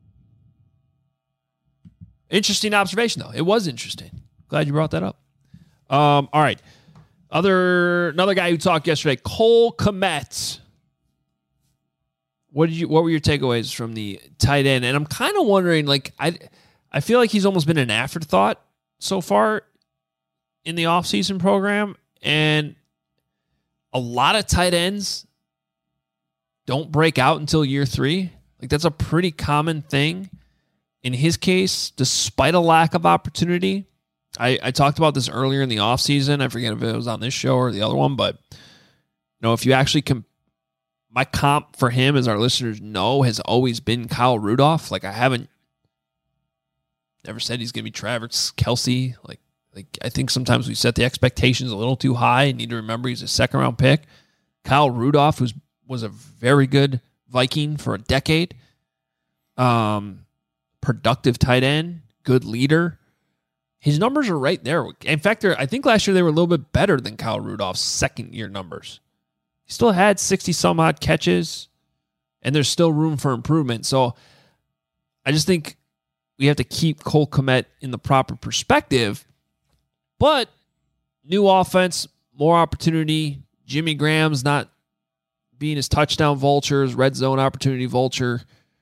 [SPEAKER 6] Interesting observation, though. It was interesting. Glad you brought that up. Um, all right. Other another guy who talked yesterday, Cole Kmet. What did you? What were your takeaways from the tight end? And I'm kind of wondering, like, I, I feel like he's almost been an afterthought so far in the offseason program, and a lot of tight ends don't break out until year three. Like, that's a pretty common thing. In his case, despite a lack of opportunity, I, I talked about this earlier in the offseason. I forget if it was on this show or the other one, but you know, if you actually com- my comp for him, as our listeners know, has always been Kyle Rudolph. Like, I haven't never said he's going to be Travis Kelce. Like, like I think sometimes we set the expectations a little too high and need to remember he's a second round pick. Kyle Rudolph was was a very good Viking for a decade. Um. Productive tight end, good leader. His numbers are right there. In fact, I think last year they were a little bit better than Kyle Rudolph's second year numbers. He still had sixty some odd catches, and there's still room for improvement. So I just think we have to keep Cole Kmet in the proper perspective. But new offense, more opportunity. Jimmy Graham's not being his touchdown vulture, his red zone opportunity vulture.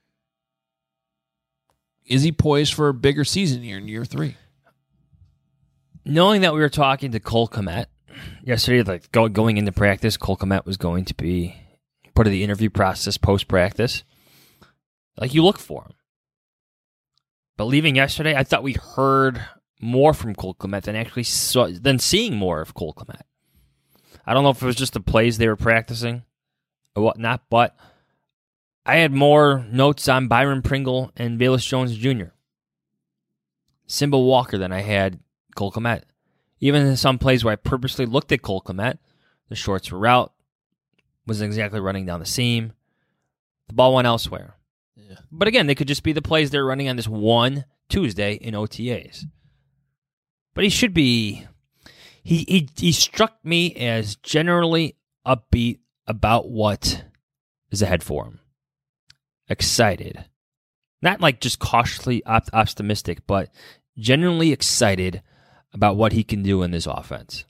[SPEAKER 6] Is he poised for a bigger season here in year three?
[SPEAKER 7] Knowing that we were talking to Cole Kmet yesterday, like go, going into practice, Cole Kmet was going to be part of the interview process post-practice. Like, you look for him. But leaving yesterday, I thought we heard more from Cole Kmet than actually saw, than seeing more of Cole Kmet. I don't know if it was just the plays they were practicing or whatnot, but I had more notes on Byron Pringle and Velus Jones Junior Simba Walker than I had Cole Kmet. Even in some plays where I purposely looked at Cole Kmet, the shorts were out, wasn't exactly running down the seam. The ball went elsewhere. Yeah. But again, they could just be the plays they're running on this one Tuesday in O T As. But he should be... He, he, he struck me as generally upbeat about what is ahead for him. Excited. Not like just cautiously op- optimistic, but genuinely excited about what he can do in this offense.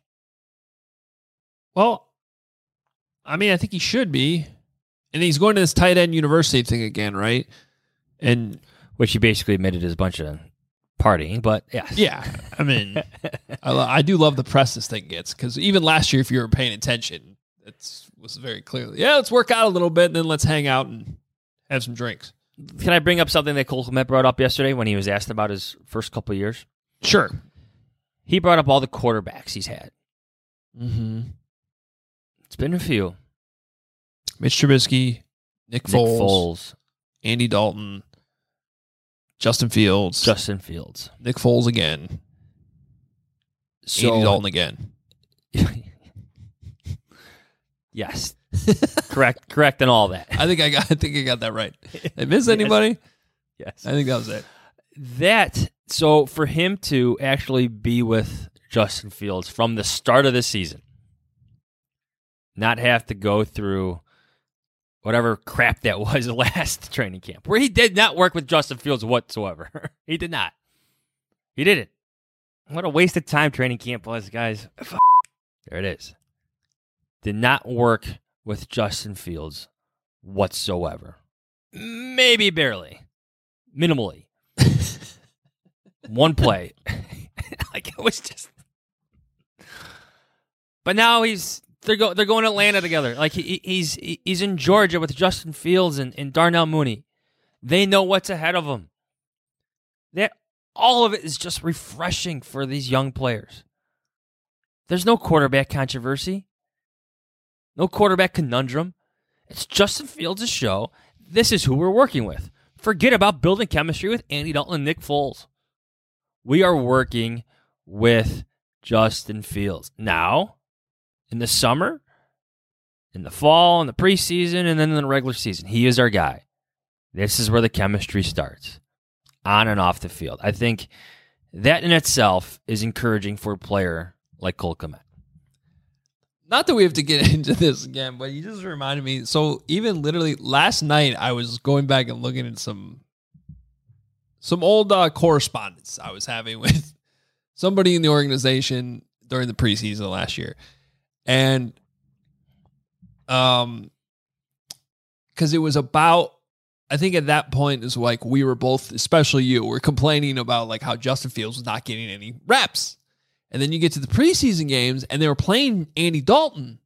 [SPEAKER 6] Well, I mean, I think he should be. And he's going to this tight end university thing again, right? And
[SPEAKER 7] which he basically admitted is a bunch of partying, but yes.
[SPEAKER 6] Yeah. I mean, I, lo- I do love the press this thing gets, because even last year, if you were paying attention, it was very clearly, yeah, let's work out a little bit and then let's hang out and have some drinks.
[SPEAKER 7] Can I bring up something that Cole Kmet brought up yesterday when he was asked about his first couple of years?
[SPEAKER 6] Sure.
[SPEAKER 7] He brought up all the quarterbacks he's had.
[SPEAKER 6] Mm-hmm.
[SPEAKER 7] It's been a few.
[SPEAKER 6] Mitch Trubisky, Nick Foles,
[SPEAKER 7] Nick Foles,
[SPEAKER 6] Andy Dalton, Justin Fields,
[SPEAKER 7] Justin Fields,
[SPEAKER 6] Nick Foles again,
[SPEAKER 7] so,
[SPEAKER 6] Andy Dalton again.
[SPEAKER 7] Yes. correct, correct, and all that.
[SPEAKER 6] I think I got. I think I got that right. Did I miss anybody?
[SPEAKER 7] Yes,
[SPEAKER 6] I think that was it.
[SPEAKER 7] That so for him to actually be with Justin Fields from the start of the season, not have to go through whatever crap that was last training camp, where he did not work with Justin Fields whatsoever. He did not. He didn't. What a waste of time training camp was, guys. There it is. Did not work with Justin Fields whatsoever. Maybe barely. Minimally. One play. Like it was just. But now he's they're go they're going to Atlanta together. Like he he's he's in Georgia with Justin Fields and, and Darnell Mooney. They know what's ahead of them. That all of it is just refreshing for these young players. There's no quarterback controversy. No quarterback conundrum. It's Justin Fields' show. This is who we're working with. Forget about building chemistry with Andy Dalton and Nick Foles. We are working with Justin Fields. Now, in the summer, in the fall, in the preseason, and then in the regular season, he is our guy. This is where the chemistry starts, on and off the field. I think that in itself is encouraging for a player like Cole Kmet.
[SPEAKER 6] Not that we have to get into this again, but you just reminded me. So even literally last night, I was going back and looking at some some old uh, correspondence I was having with somebody in the organization during the preseason last year, and um, because it was about. I think at that point is like we were both, especially you, were complaining about like how Justin Fields was not getting any reps. And then you get to the preseason games, and they were playing Andy Dalton.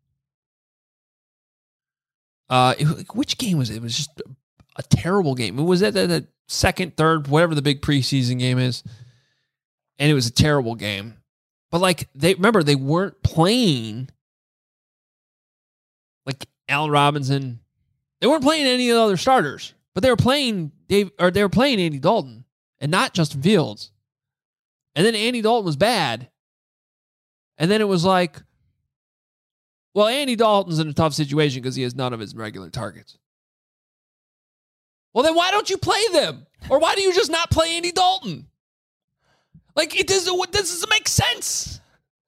[SPEAKER 6] Uh, it, which game was it? It was just a, a terrible game. It was at the, the second, third, whatever the big preseason game is. And it was a terrible game. But, like, they remember, they weren't playing, like, Allen Robinson. They weren't playing any of the other starters. But they were playing Dave, or they were playing Andy Dalton and not Justin Fields. And then Andy Dalton was bad. And then it was like, well, Andy Dalton's in a tough situation because he has none of his regular targets. Well, then why don't you play them? Or why do you just not play Andy Dalton? Like, it doesn't, it doesn't make sense.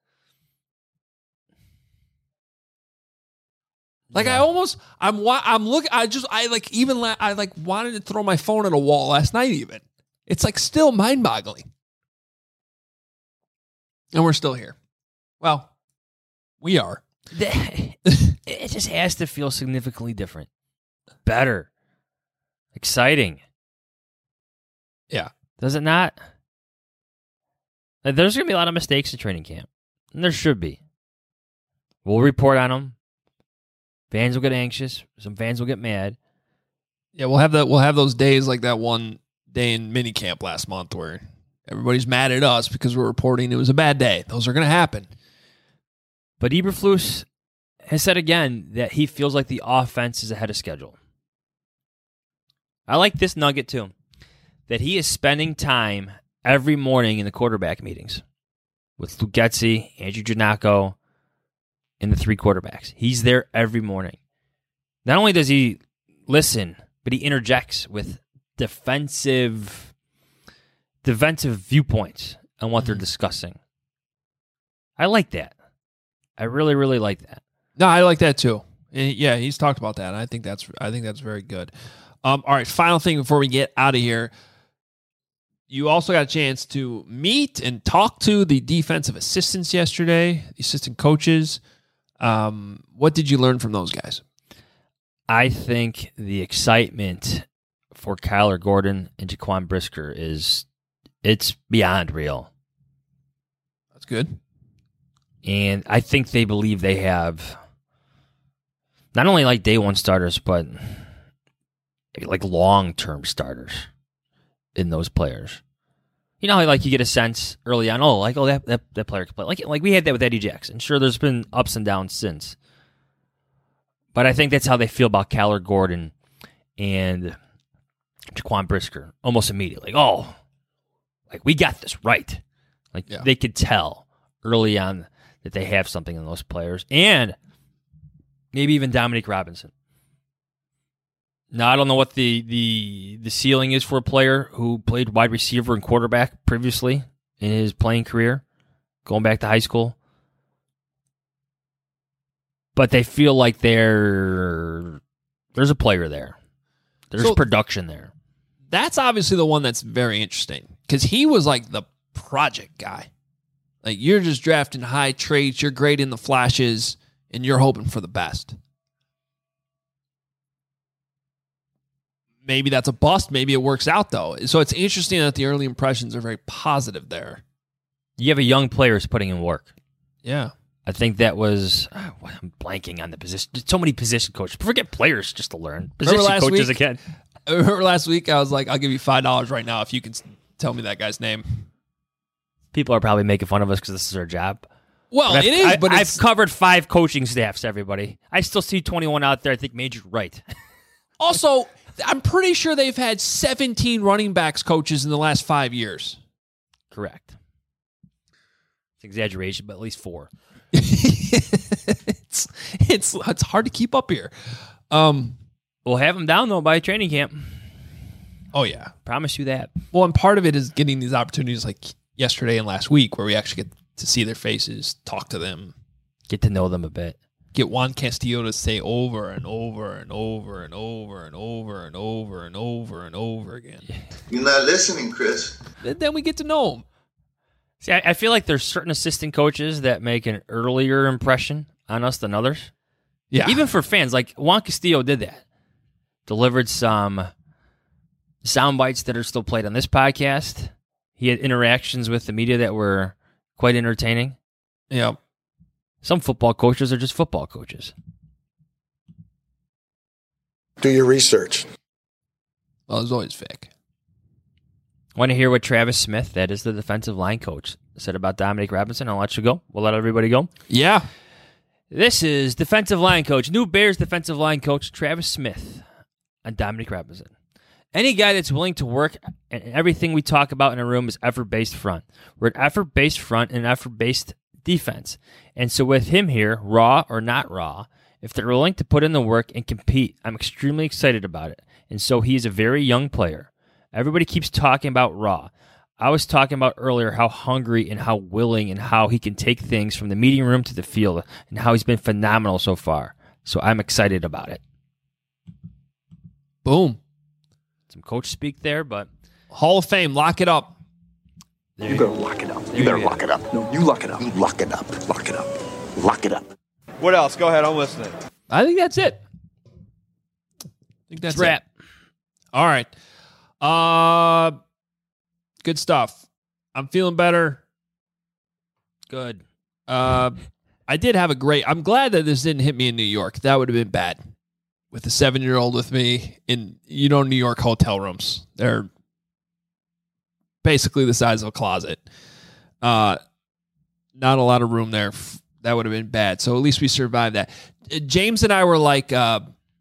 [SPEAKER 6] Like, yeah. I almost, I'm, I'm looking, I just, I like, even, la- I like wanted to throw my phone at a wall last night even. It's like still mind-boggling. And we're still here. Well, we are.
[SPEAKER 7] It just has to feel significantly different. Better. Exciting.
[SPEAKER 6] Yeah.
[SPEAKER 7] Does it not? Like, there's going to be a lot of mistakes in training camp. And there should be. We'll report on them. Fans will get anxious. Some fans will get mad.
[SPEAKER 6] Yeah, we'll have that. We'll have those days like that one day in minicamp last month where everybody's mad at us because we're reporting it was a bad day. Those are going to happen.
[SPEAKER 7] But Eberflus has said again that he feels like the offense is ahead of schedule. I like this nugget too, that he is spending time every morning in the quarterback meetings with Luke Getsy, Andrew Giannacco, and the three quarterbacks. He's there every morning. Not only does he listen, but he interjects with defensive, defensive viewpoints on what mm-hmm. they're discussing. I like that. I really, really like that.
[SPEAKER 6] No, I like that too. Yeah, he's talked about that. And I think that's I think that's very good. Um, all right, final thing before we get out of here. You also got a chance to meet and talk to the defensive assistants yesterday, the assistant coaches. Um, what did you learn from those guys?
[SPEAKER 7] I think the excitement for Kyler Gordon and Jaquan Brisker is it's beyond real.
[SPEAKER 6] That's good.
[SPEAKER 7] And I think they believe they have not only like day one starters, but like long-term starters in those players. You know how like you get a sense early on, oh, like, oh, that, that, that player can play. Like, like we had that with Eddie Jackson. Sure, there's been ups and downs since. But I think that's how they feel about Kyler Gordon and Jaquan Brisker almost immediately. Like, oh, like we got this right. Like yeah. They could tell early on that they have something in those players. And Maybe even Dominique Robinson. Now, I don't know what the, the the ceiling is for a player who played wide receiver and quarterback previously in his playing career, going back to high school. But they feel like they're there's a player there. There's
[SPEAKER 6] So-
[SPEAKER 7] production there.
[SPEAKER 6] That's obviously the one that's very interesting because he was like the project guy. Like, you're just drafting high traits, you're great in the flashes, and you're hoping for the best. Maybe that's a bust. Maybe it works out, though. So it's interesting that the early impressions are very positive there.
[SPEAKER 7] You have a young player who's putting in work.
[SPEAKER 6] Yeah.
[SPEAKER 7] I think that was oh, I'm blanking on the position. So many position coaches. Forget players just to learn. Position
[SPEAKER 6] last
[SPEAKER 7] coaches
[SPEAKER 6] week?
[SPEAKER 7] again.
[SPEAKER 6] I remember last week I was like, I'll give you five dollars right now if you can s- tell me that guy's name.
[SPEAKER 7] People are probably making fun of us because this is our job.
[SPEAKER 6] Well,
[SPEAKER 7] But
[SPEAKER 6] it
[SPEAKER 7] I've,
[SPEAKER 6] is,
[SPEAKER 7] I,
[SPEAKER 6] but
[SPEAKER 7] I've
[SPEAKER 6] it's,
[SPEAKER 7] covered five coaching staffs, everybody. I still see twenty-one out there. I think Major's right.
[SPEAKER 6] also, I'm pretty sure they've had seventeen running backs coaches in the last five years.
[SPEAKER 7] Correct. It's exaggeration, but at least four.
[SPEAKER 6] it's, it's it's hard to keep up here. Um,
[SPEAKER 7] We'll have them down, though, by training camp.
[SPEAKER 6] oh, yeah.
[SPEAKER 7] Promise you that.
[SPEAKER 6] Well, and part of it is getting these opportunities like yesterday and last week where we actually get to see their faces, talk to them,
[SPEAKER 7] Get to know them a bit.
[SPEAKER 6] get Juan Castillo to say over and over and over and over and over and over and over and over again.
[SPEAKER 4] You're not listening, Chris.
[SPEAKER 6] And then we get to know him.
[SPEAKER 7] See, I, I feel like there's certain assistant coaches that make an earlier impression on us than others.
[SPEAKER 6] Yeah.
[SPEAKER 7] Even for fans, like Juan Castillo did that. Delivered some sound bites that are still played on this podcast. He had interactions with the media that were quite entertaining.
[SPEAKER 6] Yeah.
[SPEAKER 7] Some football coaches are just football coaches.
[SPEAKER 9] Do your research.
[SPEAKER 6] Well, it's always Vic.
[SPEAKER 7] Want to hear what Travis Smith, that is the defensive line coach, said about Dominique Robinson? I'll let you go. We'll let everybody go.
[SPEAKER 6] Yeah.
[SPEAKER 7] This is defensive line coach, new Bears defensive line coach Travis Smith on Dominique Robinson. Any guy that's willing to work, and everything we talk about in a room is effort-based front. We're an effort-based front and an effort-based defense. And so with him here, raw or not raw, if they're willing to put in the work and compete, I'm extremely excited about it. And so he is a very young player. Everybody keeps talking about raw. I was talking about earlier how hungry and how willing and how he can take things from the meeting room to the field and how he's been phenomenal so far. So I'm excited about it.
[SPEAKER 6] Boom.
[SPEAKER 7] Some coach speak there, but
[SPEAKER 6] Hall of Fame. Lock it up.
[SPEAKER 9] You better lock it up. You better lock it up. No, you lock it up. You lock it up. Lock it up. Lock it up.
[SPEAKER 10] What else? Go ahead. I'm listening.
[SPEAKER 6] I think that's it. I think that's
[SPEAKER 7] it's wrap.
[SPEAKER 6] it. All right. Uh, good stuff. I'm feeling better.
[SPEAKER 7] Good.
[SPEAKER 6] Uh, I did have a great. I'm glad that this didn't hit me in New York. That would have been bad. With a seven-year-old with me in, you know, New York hotel rooms. They're basically the size of a closet. Uh, not a lot of room there. That would have been bad. So at least we survived that. James and I were like, uh,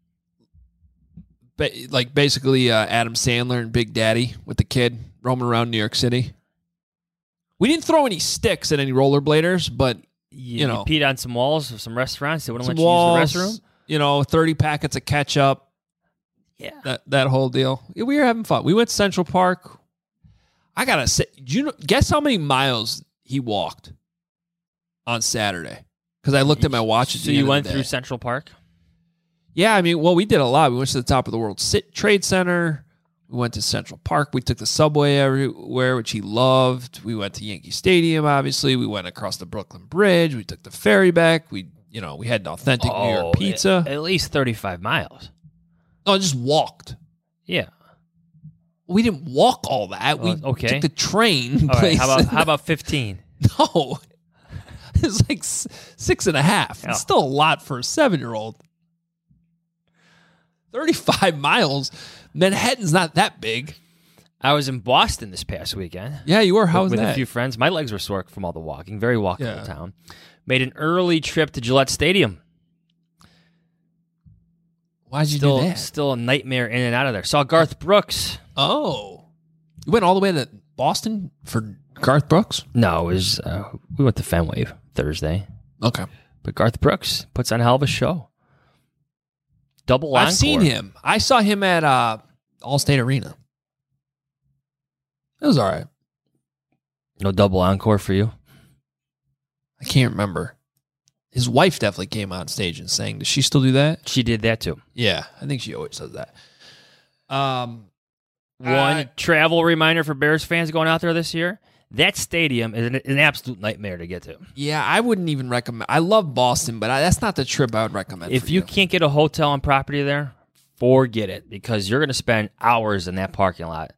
[SPEAKER 6] ba- like basically uh, Adam Sandler and Big Daddy with the kid roaming around New York City. We didn't throw any sticks at any rollerbladers, but
[SPEAKER 7] You,
[SPEAKER 6] you know,
[SPEAKER 7] you peed on some walls of some restaurants. They wouldn't
[SPEAKER 6] some
[SPEAKER 7] let you
[SPEAKER 6] walls,
[SPEAKER 7] use the restroom.
[SPEAKER 6] you know, thirty packets of ketchup.
[SPEAKER 7] Yeah.
[SPEAKER 6] That that whole deal. Yeah, we were having fun. We went to Central Park. I gotta say, do you know, guess how many miles he walked on Saturday? Because I looked at my watch. At
[SPEAKER 7] So
[SPEAKER 6] the
[SPEAKER 7] you
[SPEAKER 6] end of
[SPEAKER 7] went
[SPEAKER 6] the
[SPEAKER 7] through
[SPEAKER 6] day.
[SPEAKER 7] Central Park?
[SPEAKER 6] Yeah, I mean, well, we did a lot. We went to the top of the World Sit- Trade Center. We went to Central Park. We took the subway everywhere, which he loved. We went to Yankee Stadium, obviously. We went across the Brooklyn Bridge. We took the ferry back. We, you know, we had an authentic New York pizza.
[SPEAKER 7] At, at least thirty-five miles.
[SPEAKER 6] No, I just walked.
[SPEAKER 7] Yeah.
[SPEAKER 6] We didn't walk all that.
[SPEAKER 7] Well,
[SPEAKER 6] we
[SPEAKER 7] okay.
[SPEAKER 6] took the train.
[SPEAKER 7] All right.
[SPEAKER 6] place.
[SPEAKER 7] How about how about fifteen?
[SPEAKER 6] No. It's like s- six and a half.
[SPEAKER 7] Oh.
[SPEAKER 6] It's still a lot for a seven-year-old. thirty-five miles. Manhattan's not that big.
[SPEAKER 7] I was in Boston this past weekend.
[SPEAKER 6] Yeah, you were. How was
[SPEAKER 7] with
[SPEAKER 6] that?
[SPEAKER 7] a few friends. My legs were sore from all the walking. Very walkable
[SPEAKER 6] Yeah.
[SPEAKER 7] town. Made an early trip to Gillette Stadium.
[SPEAKER 6] Why'd you
[SPEAKER 7] Still,
[SPEAKER 6] do that?
[SPEAKER 7] still a nightmare in and out of there. Saw Garth Brooks.
[SPEAKER 6] Oh. You went all the way to Boston for Garth Brooks?
[SPEAKER 7] No, it was uh, we went to Fenway Thursday.
[SPEAKER 6] Okay.
[SPEAKER 7] But Garth Brooks puts on a hell of a show. Double encore.
[SPEAKER 6] I've seen him. I saw him at uh, Allstate Arena. It was all right.
[SPEAKER 7] No double encore for you?
[SPEAKER 6] I can't remember. His wife definitely came on stage and sang. Does she still do that?
[SPEAKER 7] She did that too.
[SPEAKER 6] Yeah, I think she always does that. Um,
[SPEAKER 7] One
[SPEAKER 6] uh,
[SPEAKER 7] travel reminder for Bears fans going out there this year. That stadium is an, an absolute nightmare to get to.
[SPEAKER 6] Yeah, I wouldn't even recommend. I love Boston, but I, that's not the trip I would recommend.
[SPEAKER 7] If
[SPEAKER 6] for
[SPEAKER 7] you
[SPEAKER 6] you
[SPEAKER 7] can't get a hotel on property there, forget it, because you're going to spend hours in that parking lot.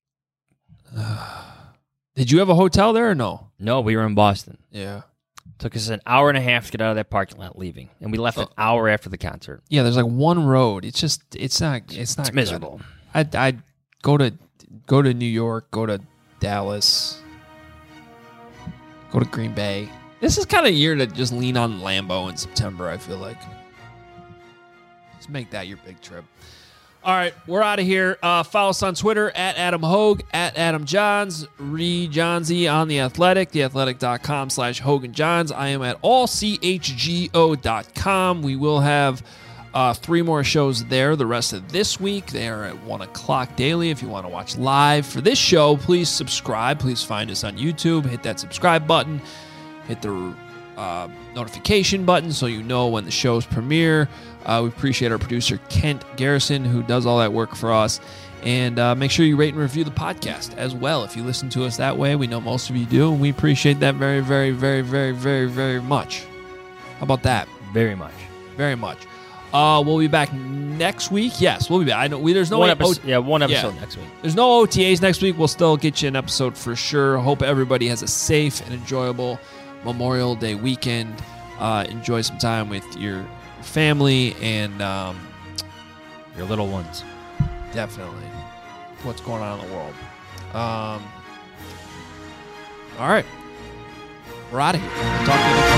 [SPEAKER 6] Did you have a hotel there or no?
[SPEAKER 7] No, we were in Boston.
[SPEAKER 6] Yeah.
[SPEAKER 7] Took us an hour and a half to get out of that parking lot leaving, and we left an hour after the concert.
[SPEAKER 6] Yeah, there's like one road. It's just it's not it's not
[SPEAKER 7] It's miserable.
[SPEAKER 6] I'd, I'd go to go to New York, go to Dallas, go to Green Bay. This is kind of a year to just lean on Lambeau in September, I feel like. Just make that your big trip. All right, we're out of here. Uh, follow us on Twitter at Adam Hogue, at Adam Johns, Ree Johnsy on The Athletic, theathletic.com slash Hogan Johns. I am at all c h g o dot com. We will have uh, three more shows there the rest of this week. They are at one o'clock daily. If you want to watch live for this show, please subscribe. Please find us on YouTube. Hit that subscribe button. Hit the uh, notification button so you know when the shows premiere. Uh, we appreciate our producer, Kent Garrison, who does all that work for us. And uh, make sure you rate and review the podcast as well. If you listen to us that way, we know most of you do, and we appreciate that very, very, very, very, very, very much. How about that?
[SPEAKER 7] Very much.
[SPEAKER 6] Very much. Uh, we'll be back next week. Yes, we'll be back. I know we, there's no
[SPEAKER 7] one
[SPEAKER 6] way-
[SPEAKER 7] episode,
[SPEAKER 6] oh,
[SPEAKER 7] yeah, one episode
[SPEAKER 6] yeah.
[SPEAKER 7] next week.
[SPEAKER 6] There's no O T As next week. We'll still get you an episode for sure. Hope everybody has a safe and enjoyable Memorial Day weekend. Uh, enjoy some time with your family and um,
[SPEAKER 7] your little ones.
[SPEAKER 6] Definitely. What's going on in the world. Um, all right. We're out of here. Talk to you next